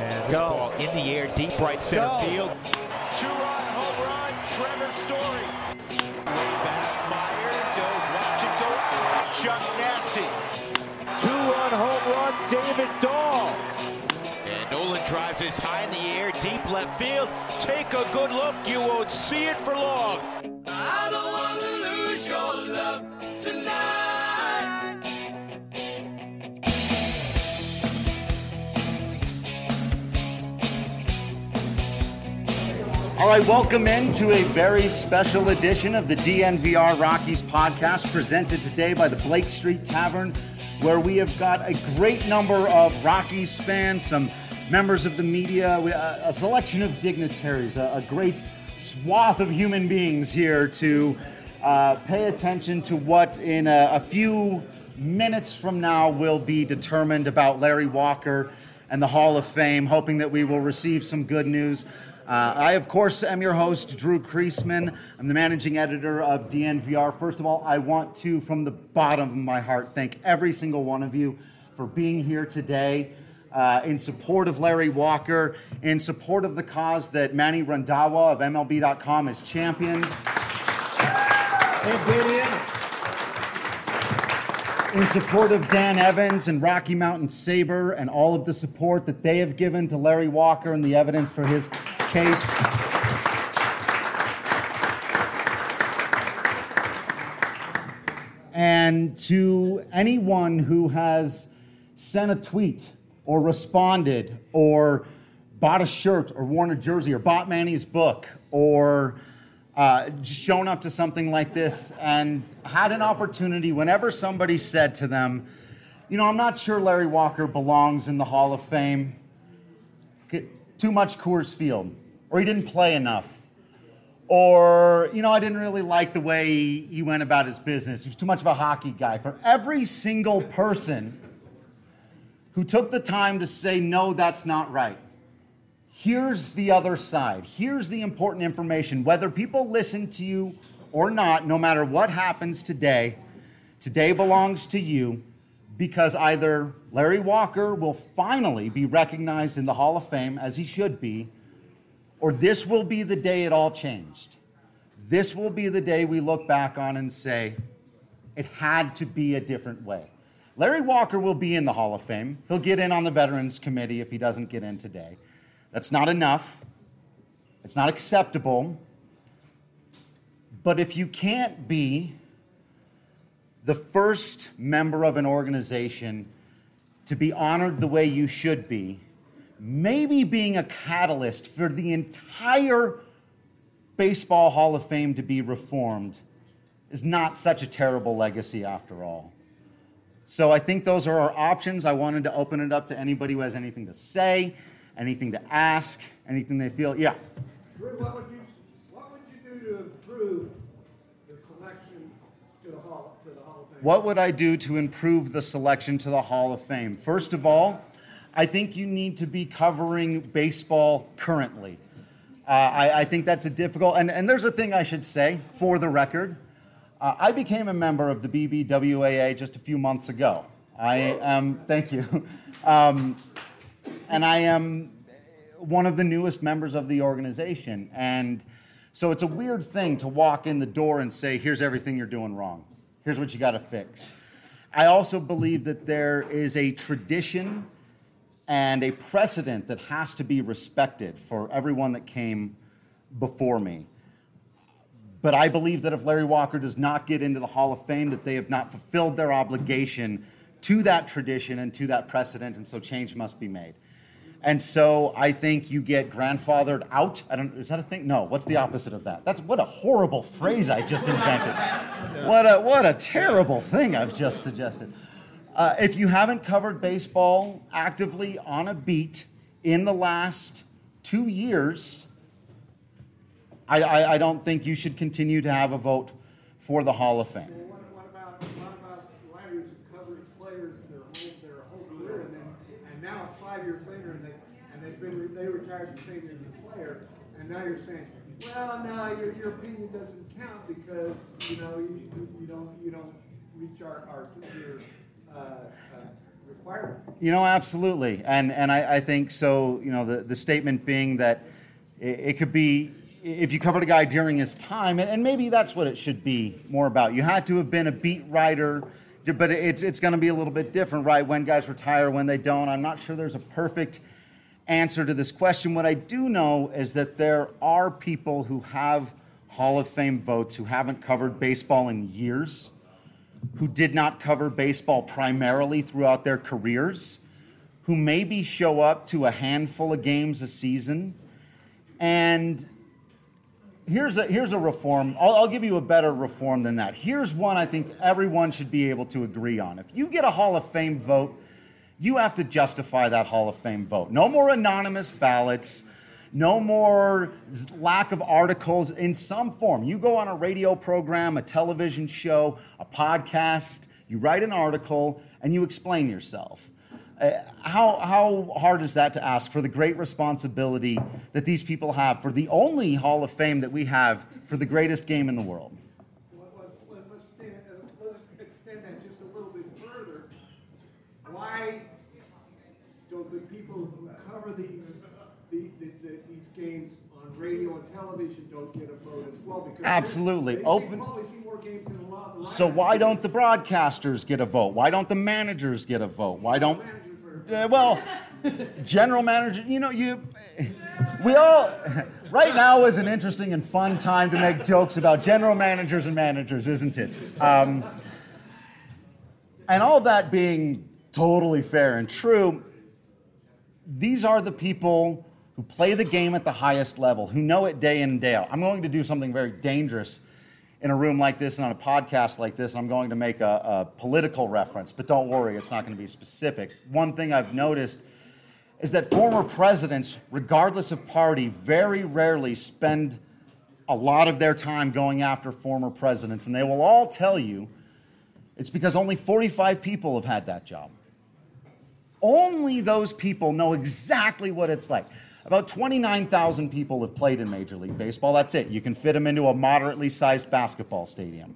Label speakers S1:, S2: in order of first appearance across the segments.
S1: And this ball in the air, deep right center field.
S2: Two-run home run, Trevor Story. Way back, Myers. Watch it go out. Chuck Nasty.
S3: Two-run home run, David Dahl.
S2: And Nolan drives this high in the air, deep left field. Take a good look. You won't see it for long.
S4: I don't want to lose your love tonight.
S5: All right, welcome into a very special edition of the DNVR Rockies podcast, presented today by the Blake Street Tavern, where we have got a great number of Rockies fans, some members of the media, a selection of dignitaries, a great swath of human beings here to pay attention to what in a few minutes from now will be determined about Larry Walker and the Hall of Fame, hoping that we will receive some good news. I, of course, am your host, Drew Creasman. I'm the managing editor of DNVR. First of all, I want to, from the bottom of my heart, thank every single one of you for being here today in support of Larry Walker, in support of the cause that Manny Randhawa of MLB.com has championed. In support of Dan Evans and Rocky Mountain Sabre and all of the support that they have given to Larry Walker and the evidence for his case. And to anyone who has sent a tweet or responded or bought a shirt or worn a jersey or bought Manny's book or shown up to something like this and had an opportunity whenever somebody said to them, you know, I'm not sure Larry Walker belongs in the Hall of Fame. Too much Coors Field. Or he didn't play enough. Or, you know, I didn't really like the way he went about his business. He was too much of a hockey guy. For every single person who took the time to say, no, that's not right, here's the other side. Here's the important information. Whether people listen to you or not, no matter what happens today, today belongs to you, because either Larry Walker will finally be recognized in the Hall of Fame, as he should be, or this will be the day it all changed. This will be the day we look back on and say, it had to be a different way. Larry Walker will be in the Hall of Fame. He'll get in on the Veterans Committee if he doesn't get in today. That's not enough. It's not acceptable. But if you can't be the first member of an organization to be honored the way you should be, maybe being a catalyst for the entire Baseball Hall of Fame to be reformed is not such a terrible legacy after all. So I think those are our options. I wanted to open it up to anybody who has anything to say, anything to ask, anything they feel. Yeah.
S6: Drew, what would you do to improve the selection to the Hall of Fame?
S5: What would I do to improve the selection to the Hall of Fame? First of all, I think you need to be covering baseball currently. I think that's a difficult, and there's a thing I should say for the record. I became a member of the BBWAA just a few months ago. Thank you. And I am one of the newest members of the organization. And so it's a weird thing to walk in the door and say, here's everything you're doing wrong. Here's what you got to fix. I also believe that there is a tradition and a precedent that has to be respected for everyone that came before me. But I believe that if Larry Walker does not get into the Hall of Fame, that they have not fulfilled their obligation to that tradition and to that precedent, and so change must be made. And so I think you get grandfathered out. Is that a thing? No, what's the opposite of that? What a horrible phrase I just invented. What a terrible thing I've just suggested. If you haven't covered baseball actively on a beat in the last 2 years, I don't think you should continue to have a vote for the Hall of Fame.
S6: Well, what about writers who covered players their whole career, and now it's 5 years later, and they retired the same year as the player, and now you're saying, well, no, your opinion doesn't count because you don't reach our 2-year requirement.
S5: Absolutely. And I think so, the statement being that it could be, if you covered a guy during his time, and maybe that's what it should be more about. You had to have been a beat writer, but it's going to be a little bit different, right? When guys retire, when they don't. I'm not sure there's a perfect answer to this question. What I do know is that there are people who have Hall of Fame votes who haven't covered baseball in years, who did not cover baseball primarily throughout their careers, who maybe show up to a handful of games a season. And here's a reform. I'll give you a better reform than that. Here's one I think everyone should be able to agree on. If you get a Hall of Fame vote, you have to justify that Hall of Fame vote. No more anonymous ballots. No more lack of articles in some form. You go on a radio program, a television show, a podcast, you write an article, and you explain yourself. How hard is that to ask for the great responsibility that these people have for the only Hall of Fame that we have for the greatest game in the world?
S6: Let's extend that just a little bit further. Why don't the people who cover these games on radio and television don't get a vote as well? Because
S5: absolutely.
S6: They probably see more games than a lot of the
S5: So why don't the broadcasters get a vote? Why don't the managers get a vote? Why don't general manager, we all, right now is an interesting and fun time to make jokes about general managers and managers, isn't it? And all that being totally fair and true, these are the people who play the game at the highest level, who know it day in and day out. I'm going to do something very dangerous in a room like this and on a podcast like this, and I'm going to make a political reference, but don't worry, it's not going to be specific. One thing I've noticed is that former presidents, regardless of party, very rarely spend a lot of their time going after former presidents, and they will all tell you it's because only 45 people have had that job. Only those people know exactly what it's like. About 29,000 people have played in Major League Baseball. That's it. You can fit them into a moderately sized basketball stadium.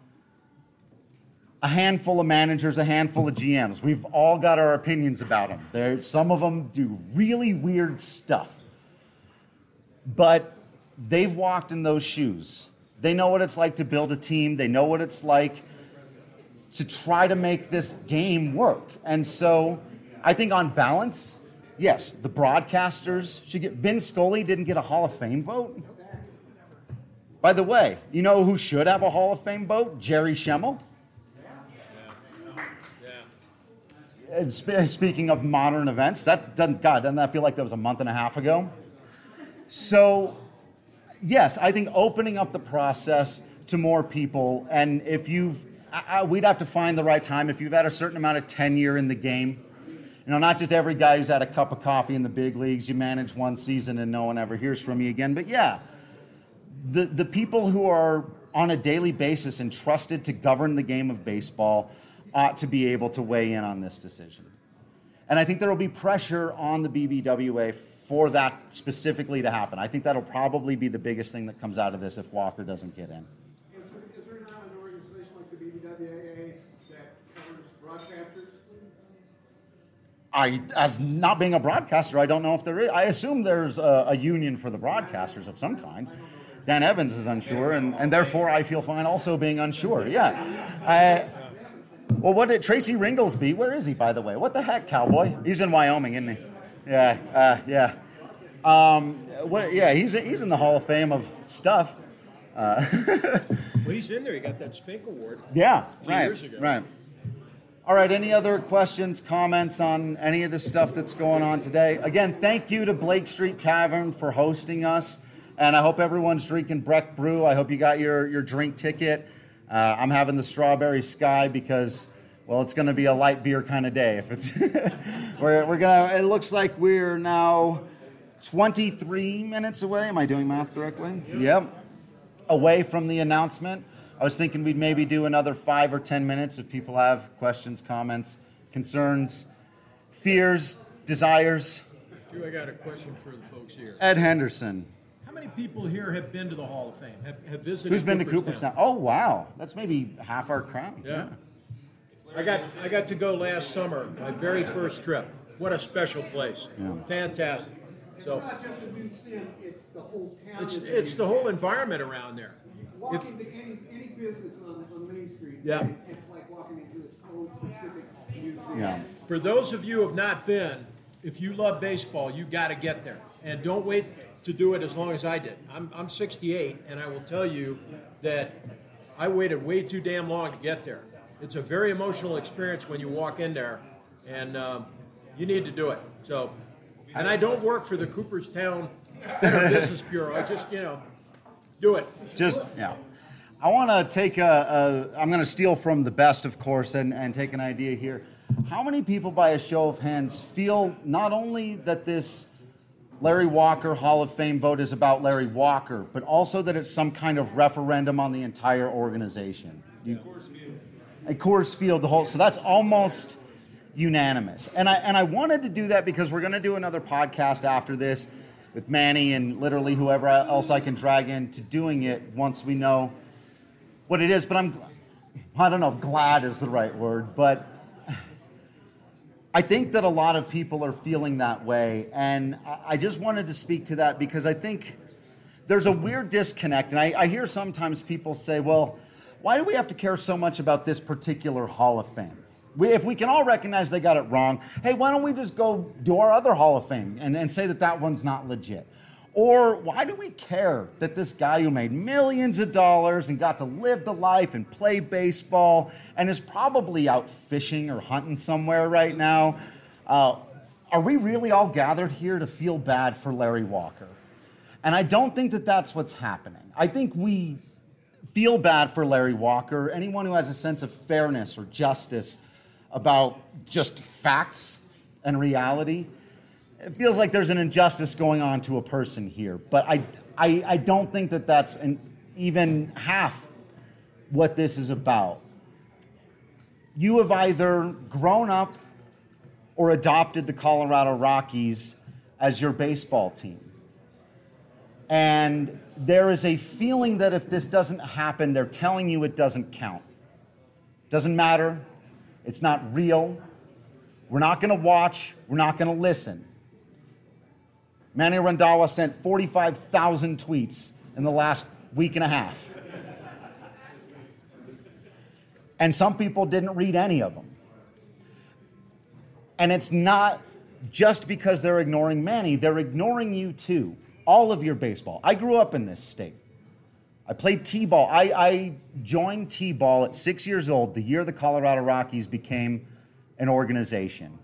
S5: A handful of managers, a handful of GMs. We've all got our opinions about them. Some of them do really weird stuff. But they've walked in those shoes. They know what it's like to build a team. They know what it's like to try to make this game work. And so I think on balance, yes, the broadcasters should get. Vin Scully didn't get a Hall of Fame vote. By the way, you know who should have a Hall of Fame vote? Jerry Schemmel. Speaking of modern events, doesn't that feel like that was a month and a half ago? So, yes, I think opening up the process to more people, and if we'd have to find the right time. If you've had a certain amount of tenure in the game, not just every guy who's had a cup of coffee in the big leagues, you manage one season and no one ever hears from you again. But yeah, the people who are on a daily basis entrusted to govern the game of baseball ought to be able to weigh in on this decision. And I think there will be pressure on the BBWA for that specifically to happen. I think that'll probably be the biggest thing that comes out of this if Walker doesn't get in.
S6: Is there not an organization like the BBWA that covers broadcasters?
S5: As not being a broadcaster, I don't know if there is. I assume there's a union for the broadcasters of some kind. Dan Evans is unsure, and therefore I feel fine also being unsure. Yeah. Well, what did Tracy Ringolsby? Where is he, by the way? What the heck, cowboy? He's in Wyoming, isn't he? Yeah. He's in the Hall of Fame of stuff.
S7: Well, he's in there. He got that Spink Award.
S5: Yeah,
S7: a few years ago.
S5: Right. All right, any other questions, comments on any of the stuff that's going on today? Again, thank you to Blake Street Tavern for hosting us, and I hope everyone's drinking Breck Brew. I hope you got your drink ticket. I'm having the Strawberry Sky because, well, it's going to be a light beer kind of day. If it's, we're gonna. It looks like we're now 23 minutes away. Am I doing math correctly? Yep. Away from the announcement. I was thinking we'd maybe do another 5 or 10 minutes if people have questions, comments, concerns, fears, desires.
S7: I got a question for the folks here.
S5: Ed Henderson.
S7: How many people here have been to the Hall of Fame, have visited?
S5: Who's been to Cooperstown? Oh, wow. That's maybe half our crowd.
S7: Yeah. I got to go last summer, my very first trip. What a special place.
S5: Yeah.
S7: Fantastic. So
S6: It's not just the museum, it's the whole town.
S7: it's the whole environment around there.
S6: Walk into any business on Main Street,
S7: Yeah.
S6: it's like walking into its own specific museum.
S5: Yeah.
S7: For those of you who have not been, if you love baseball, you got to get there. And don't wait to do it as long as I did. I'm 68, and I will tell you that I waited way too damn long to get there. It's a very emotional experience when you walk in there, and you need to do it. So, and I don't work for the Cooperstown Better Business Bureau. I just, do it.
S5: Just, yeah. I want to take I'm going to steal from the best, of course, and take an idea here. How many people, by a show of hands, feel not only that this Larry Walker Hall of Fame vote is about Larry Walker, but also that it's some kind of referendum on the entire organization? Coors Field, the whole. So that's almost unanimous. And I wanted to do that because we're going to do another podcast after this with Manny and literally whoever else I can drag into doing it once we know what it is. But I don't know if glad is the right word, but I think that a lot of people are feeling that way. And I just wanted to speak to that because I think there's a weird disconnect. And I hear sometimes people say, well, why do we have to care so much about this particular Hall of Fame? If we can all recognize they got it wrong, hey, why don't we just go do our other Hall of Fame and say that one's not legit? Or why do we care that this guy who made millions of dollars and got to live the life and play baseball and is probably out fishing or hunting somewhere right now, are we really all gathered here to feel bad for Larry Walker? And I don't think that that's what's happening. I think we feel bad for Larry Walker, anyone who has a sense of fairness or justice about just facts and reality. It feels like there's an injustice going on to a person here, but I don't think that that's even half what this is about. You have either grown up or adopted the Colorado Rockies as your baseball team. And there is a feeling that if this doesn't happen, they're telling you it doesn't count. Doesn't matter. It's not real. We're not going to watch. We're not going to listen. Manny Randhawa sent 45,000 tweets in the last week and a half. And some people didn't read any of them. And it's not just because they're ignoring Manny. They're ignoring you too. All of your baseball. I grew up in this state. I played T-ball. I joined T-ball at 6 years old, the year the Colorado Rockies became an organization.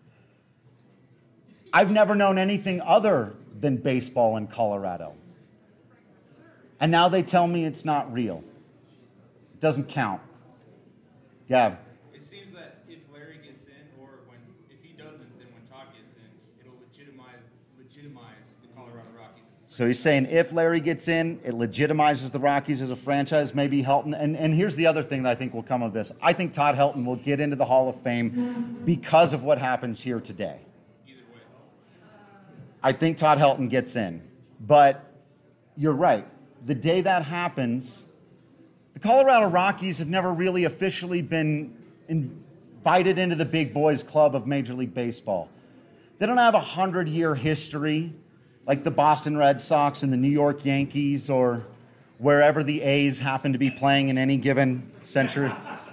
S5: I've never known anything other than baseball in Colorado. And now they tell me it's not real. It doesn't count. Yeah.
S8: It seems that if Larry gets in, or if he doesn't, then when Todd gets in, it'll legitimize the Colorado Rockies.
S5: So he's saying if Larry gets in, it legitimizes the Rockies as a franchise, maybe Helton. And here's the other thing that I think will come of this. I think Todd Helton will get into the Hall of Fame because of what happens here today.
S8: Either way.
S5: I think Todd Helton gets in. But you're right. The day that happens, the Colorado Rockies have never really officially been invited into the big boys club of Major League Baseball. They don't have a 100-year history like the Boston Red Sox and the New York Yankees or wherever the A's happen to be playing in any given century.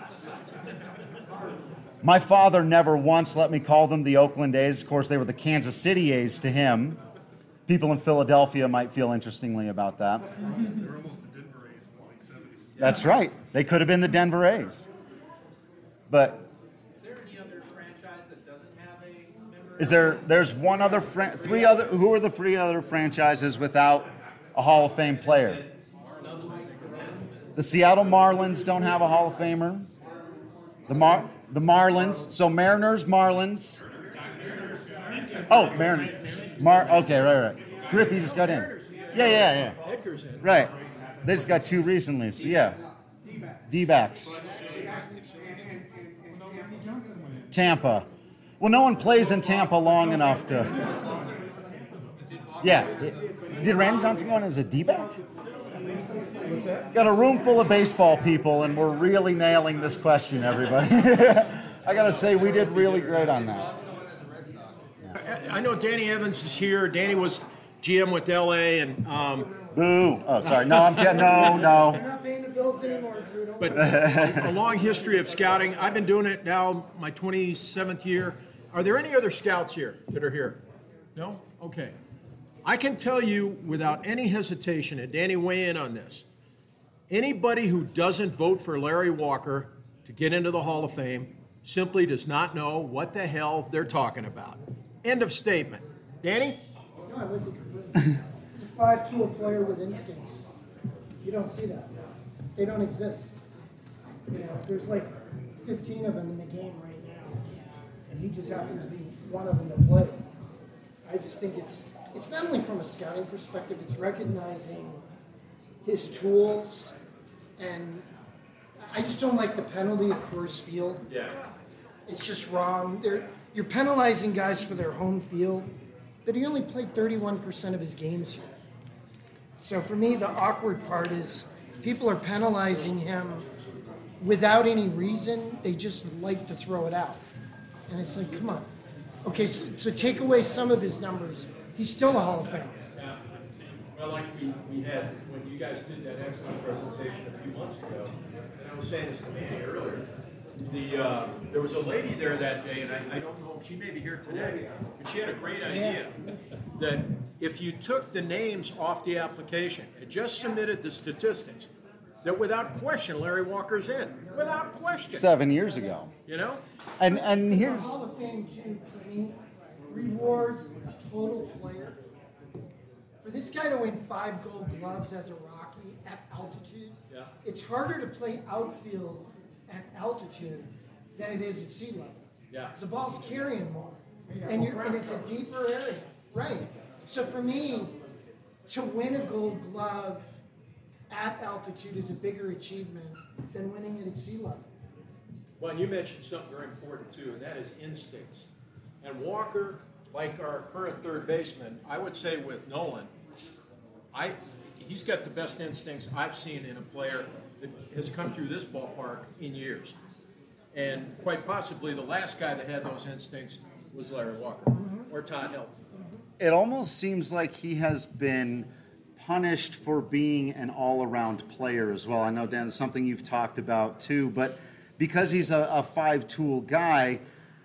S5: My father never once let me call them the Oakland A's. Of course, they were the Kansas City A's to him. People in Philadelphia might feel interestingly about that.
S9: They were almost the Denver A's in the late 70s.
S5: That's right. They could have been the Denver A's. But
S8: Is there any other franchise that doesn't have a member?
S5: there's one other, who are the three other franchises without a Hall of Fame player? The Seattle Marlins don't have a Hall of Famer. The Marlins, so Mariners, Marlins. Oh, Mariners. Okay, right. Griffey just got in. Yeah.
S7: Edgar's in.
S5: Right. They just got two recently, so yeah. D-backs. Tampa. Well, no one plays in Tampa long enough to... Yeah. Did Randy Johnson go in as a D-back?
S7: What's that?
S5: Got a room full of baseball people, and we're really nailing this question, everybody. I got to say, we did really great on that.
S7: I know Danny Evans is here. Danny was GM with LA, and
S5: Boo. Oh, sorry. No, I'm kidding. No.
S6: You're not paying the bills anymore, Drew. Don't
S7: but
S6: worry.
S7: a long history of scouting. I've been doing it now my 27th year. Are there any other scouts here that are here? No? Okay. I can tell you without any hesitation, and Danny, weigh in on this. Anybody who doesn't vote for Larry Walker to get into the Hall of Fame simply does not know what the hell they're talking about. End of statement. Danny?
S6: No, I'm with you completely. He's a 5-tool player with instincts. You don't see that. They don't exist. You know, there's like 15 of them in the game right now, and he just happens to be one of them to play. I just think it's not only from a scouting perspective, it's recognizing his tools, and I just don't like the penalty at Coors Field.
S7: Yeah.
S6: It's just wrong. You're penalizing guys for their home field, but he only played 31% of his games here. So for me, the awkward part is people are penalizing him without any reason. They just like to throw it out. And it's like, come on. Okay, so take away some of his numbers. He's still a Hall of Famer.
S7: Yeah. Well, like we had when you guys did that excellent presentation a few months ago, and I was saying this to Manny earlier, there was a lady there that day, and I don't know, she may be here today, but she had a great idea that if you took the names off the application and just submitted the statistics, that without question, Larry Walker's in. Without question.
S5: 7 years ago.
S7: You know?
S5: And
S6: The
S5: here's...
S6: Hall of Fame, too, for me, rewards a total player. For this guy to win 5 Gold Gloves as a Rocky at altitude, it's harder to play outfield at altitude than it is at sea level.
S7: Yeah.
S6: The ball's carrying more, and it's a deeper area, right? So for me, to win a Gold Glove at altitude is a bigger achievement than winning it at sea level.
S7: Well, and you mentioned something very important too, and that is instincts. And Walker, like our current third baseman, I would say with Nolan, he's got the best instincts I've seen in a player that has come through this ballpark in years. And quite possibly the last guy that had those instincts was Larry Walker or Todd Helton.
S5: It almost seems like he has been punished for being an all-around player as well. I know, Dan, it's something you've talked about too, but because he's a 5-tool guy,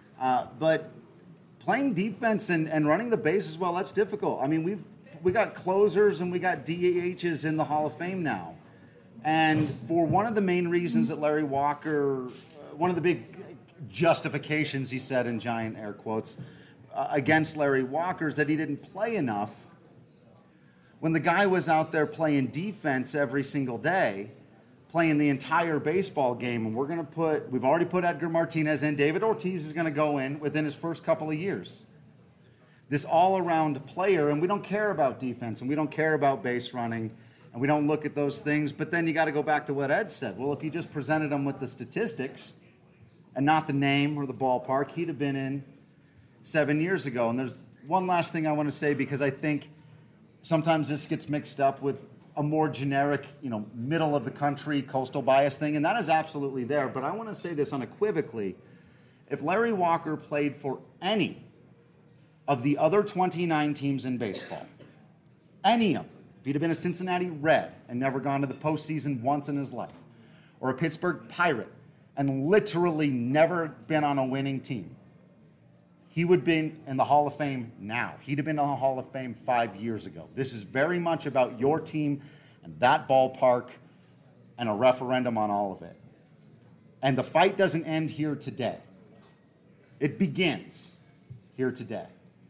S5: but playing defense and running the base as well, that's difficult. I mean, we got closers and we got DHs in the Hall of Fame now. And for one of the main reasons that Larry Walker, one of the big justifications, he said in giant air quotes, against Larry Walker is that he didn't play enough. When the guy was out there playing defense every single day, playing the entire baseball game, and we've already put Edgar Martinez in, David Ortiz is going to go in within his first couple of years. This all-around player, and we don't care about defense, and we don't care about base running, and we don't look at those things, but then you got to go back to what Ed said. Well, if you just presented him with the statistics and not the name or the ballpark, he'd have been in 7 years ago. And there's one last thing I want to say, because I think sometimes this gets mixed up with a more generic, middle of the country coastal bias thing, and that is absolutely there. But I want to say this unequivocally. If Larry Walker played for any of the other 29 teams in baseball, any of them, if he'd have been a Cincinnati Red and never gone to the postseason once in his life, or a Pittsburgh Pirate and literally never been on a winning team, he would be in the Hall of Fame now. He'd have been in the Hall of Fame 5 years ago. This is very much about your team and that ballpark and a referendum on all of it. And the fight doesn't end here today. It begins here today.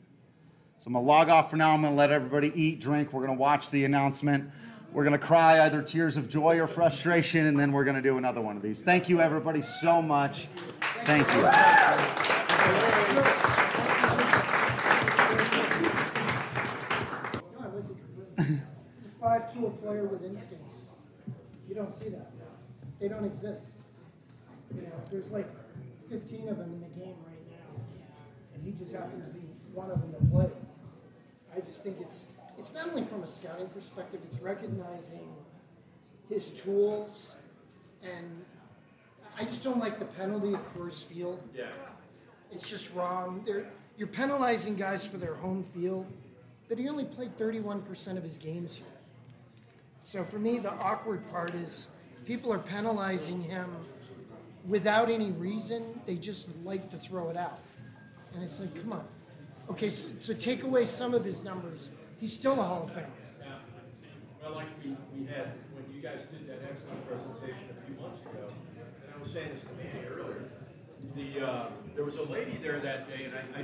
S5: So I'm going to log off for now. I'm going to let everybody eat, drink. We're going to watch the announcement. We're going to cry either tears of joy or frustration, and then we're going to do another one of these. Thank you, everybody, so much. Thank you.
S6: He's a 5-tool player with instincts. You don't see that. They don't exist. There's like 15 of them in the game right now, and he just happens to be one of them to play. I just think it's not only from a scouting perspective, it's recognizing
S10: his tools, and I just don't like the penalty at Coors Field.
S7: Yeah.
S10: It's just wrong. You're penalizing guys for their home field, but he only played 31% of his games here. So for me, the awkward part is people are penalizing him without any reason. They just like to throw it out. And it's like, come on. Okay, so take away some of his numbers. He's still a Hall of Famer.
S7: Yeah. Well, like we had, when you guys did that excellent presentation a few months ago, and I was saying this to Manny earlier, there was a lady there that day, and I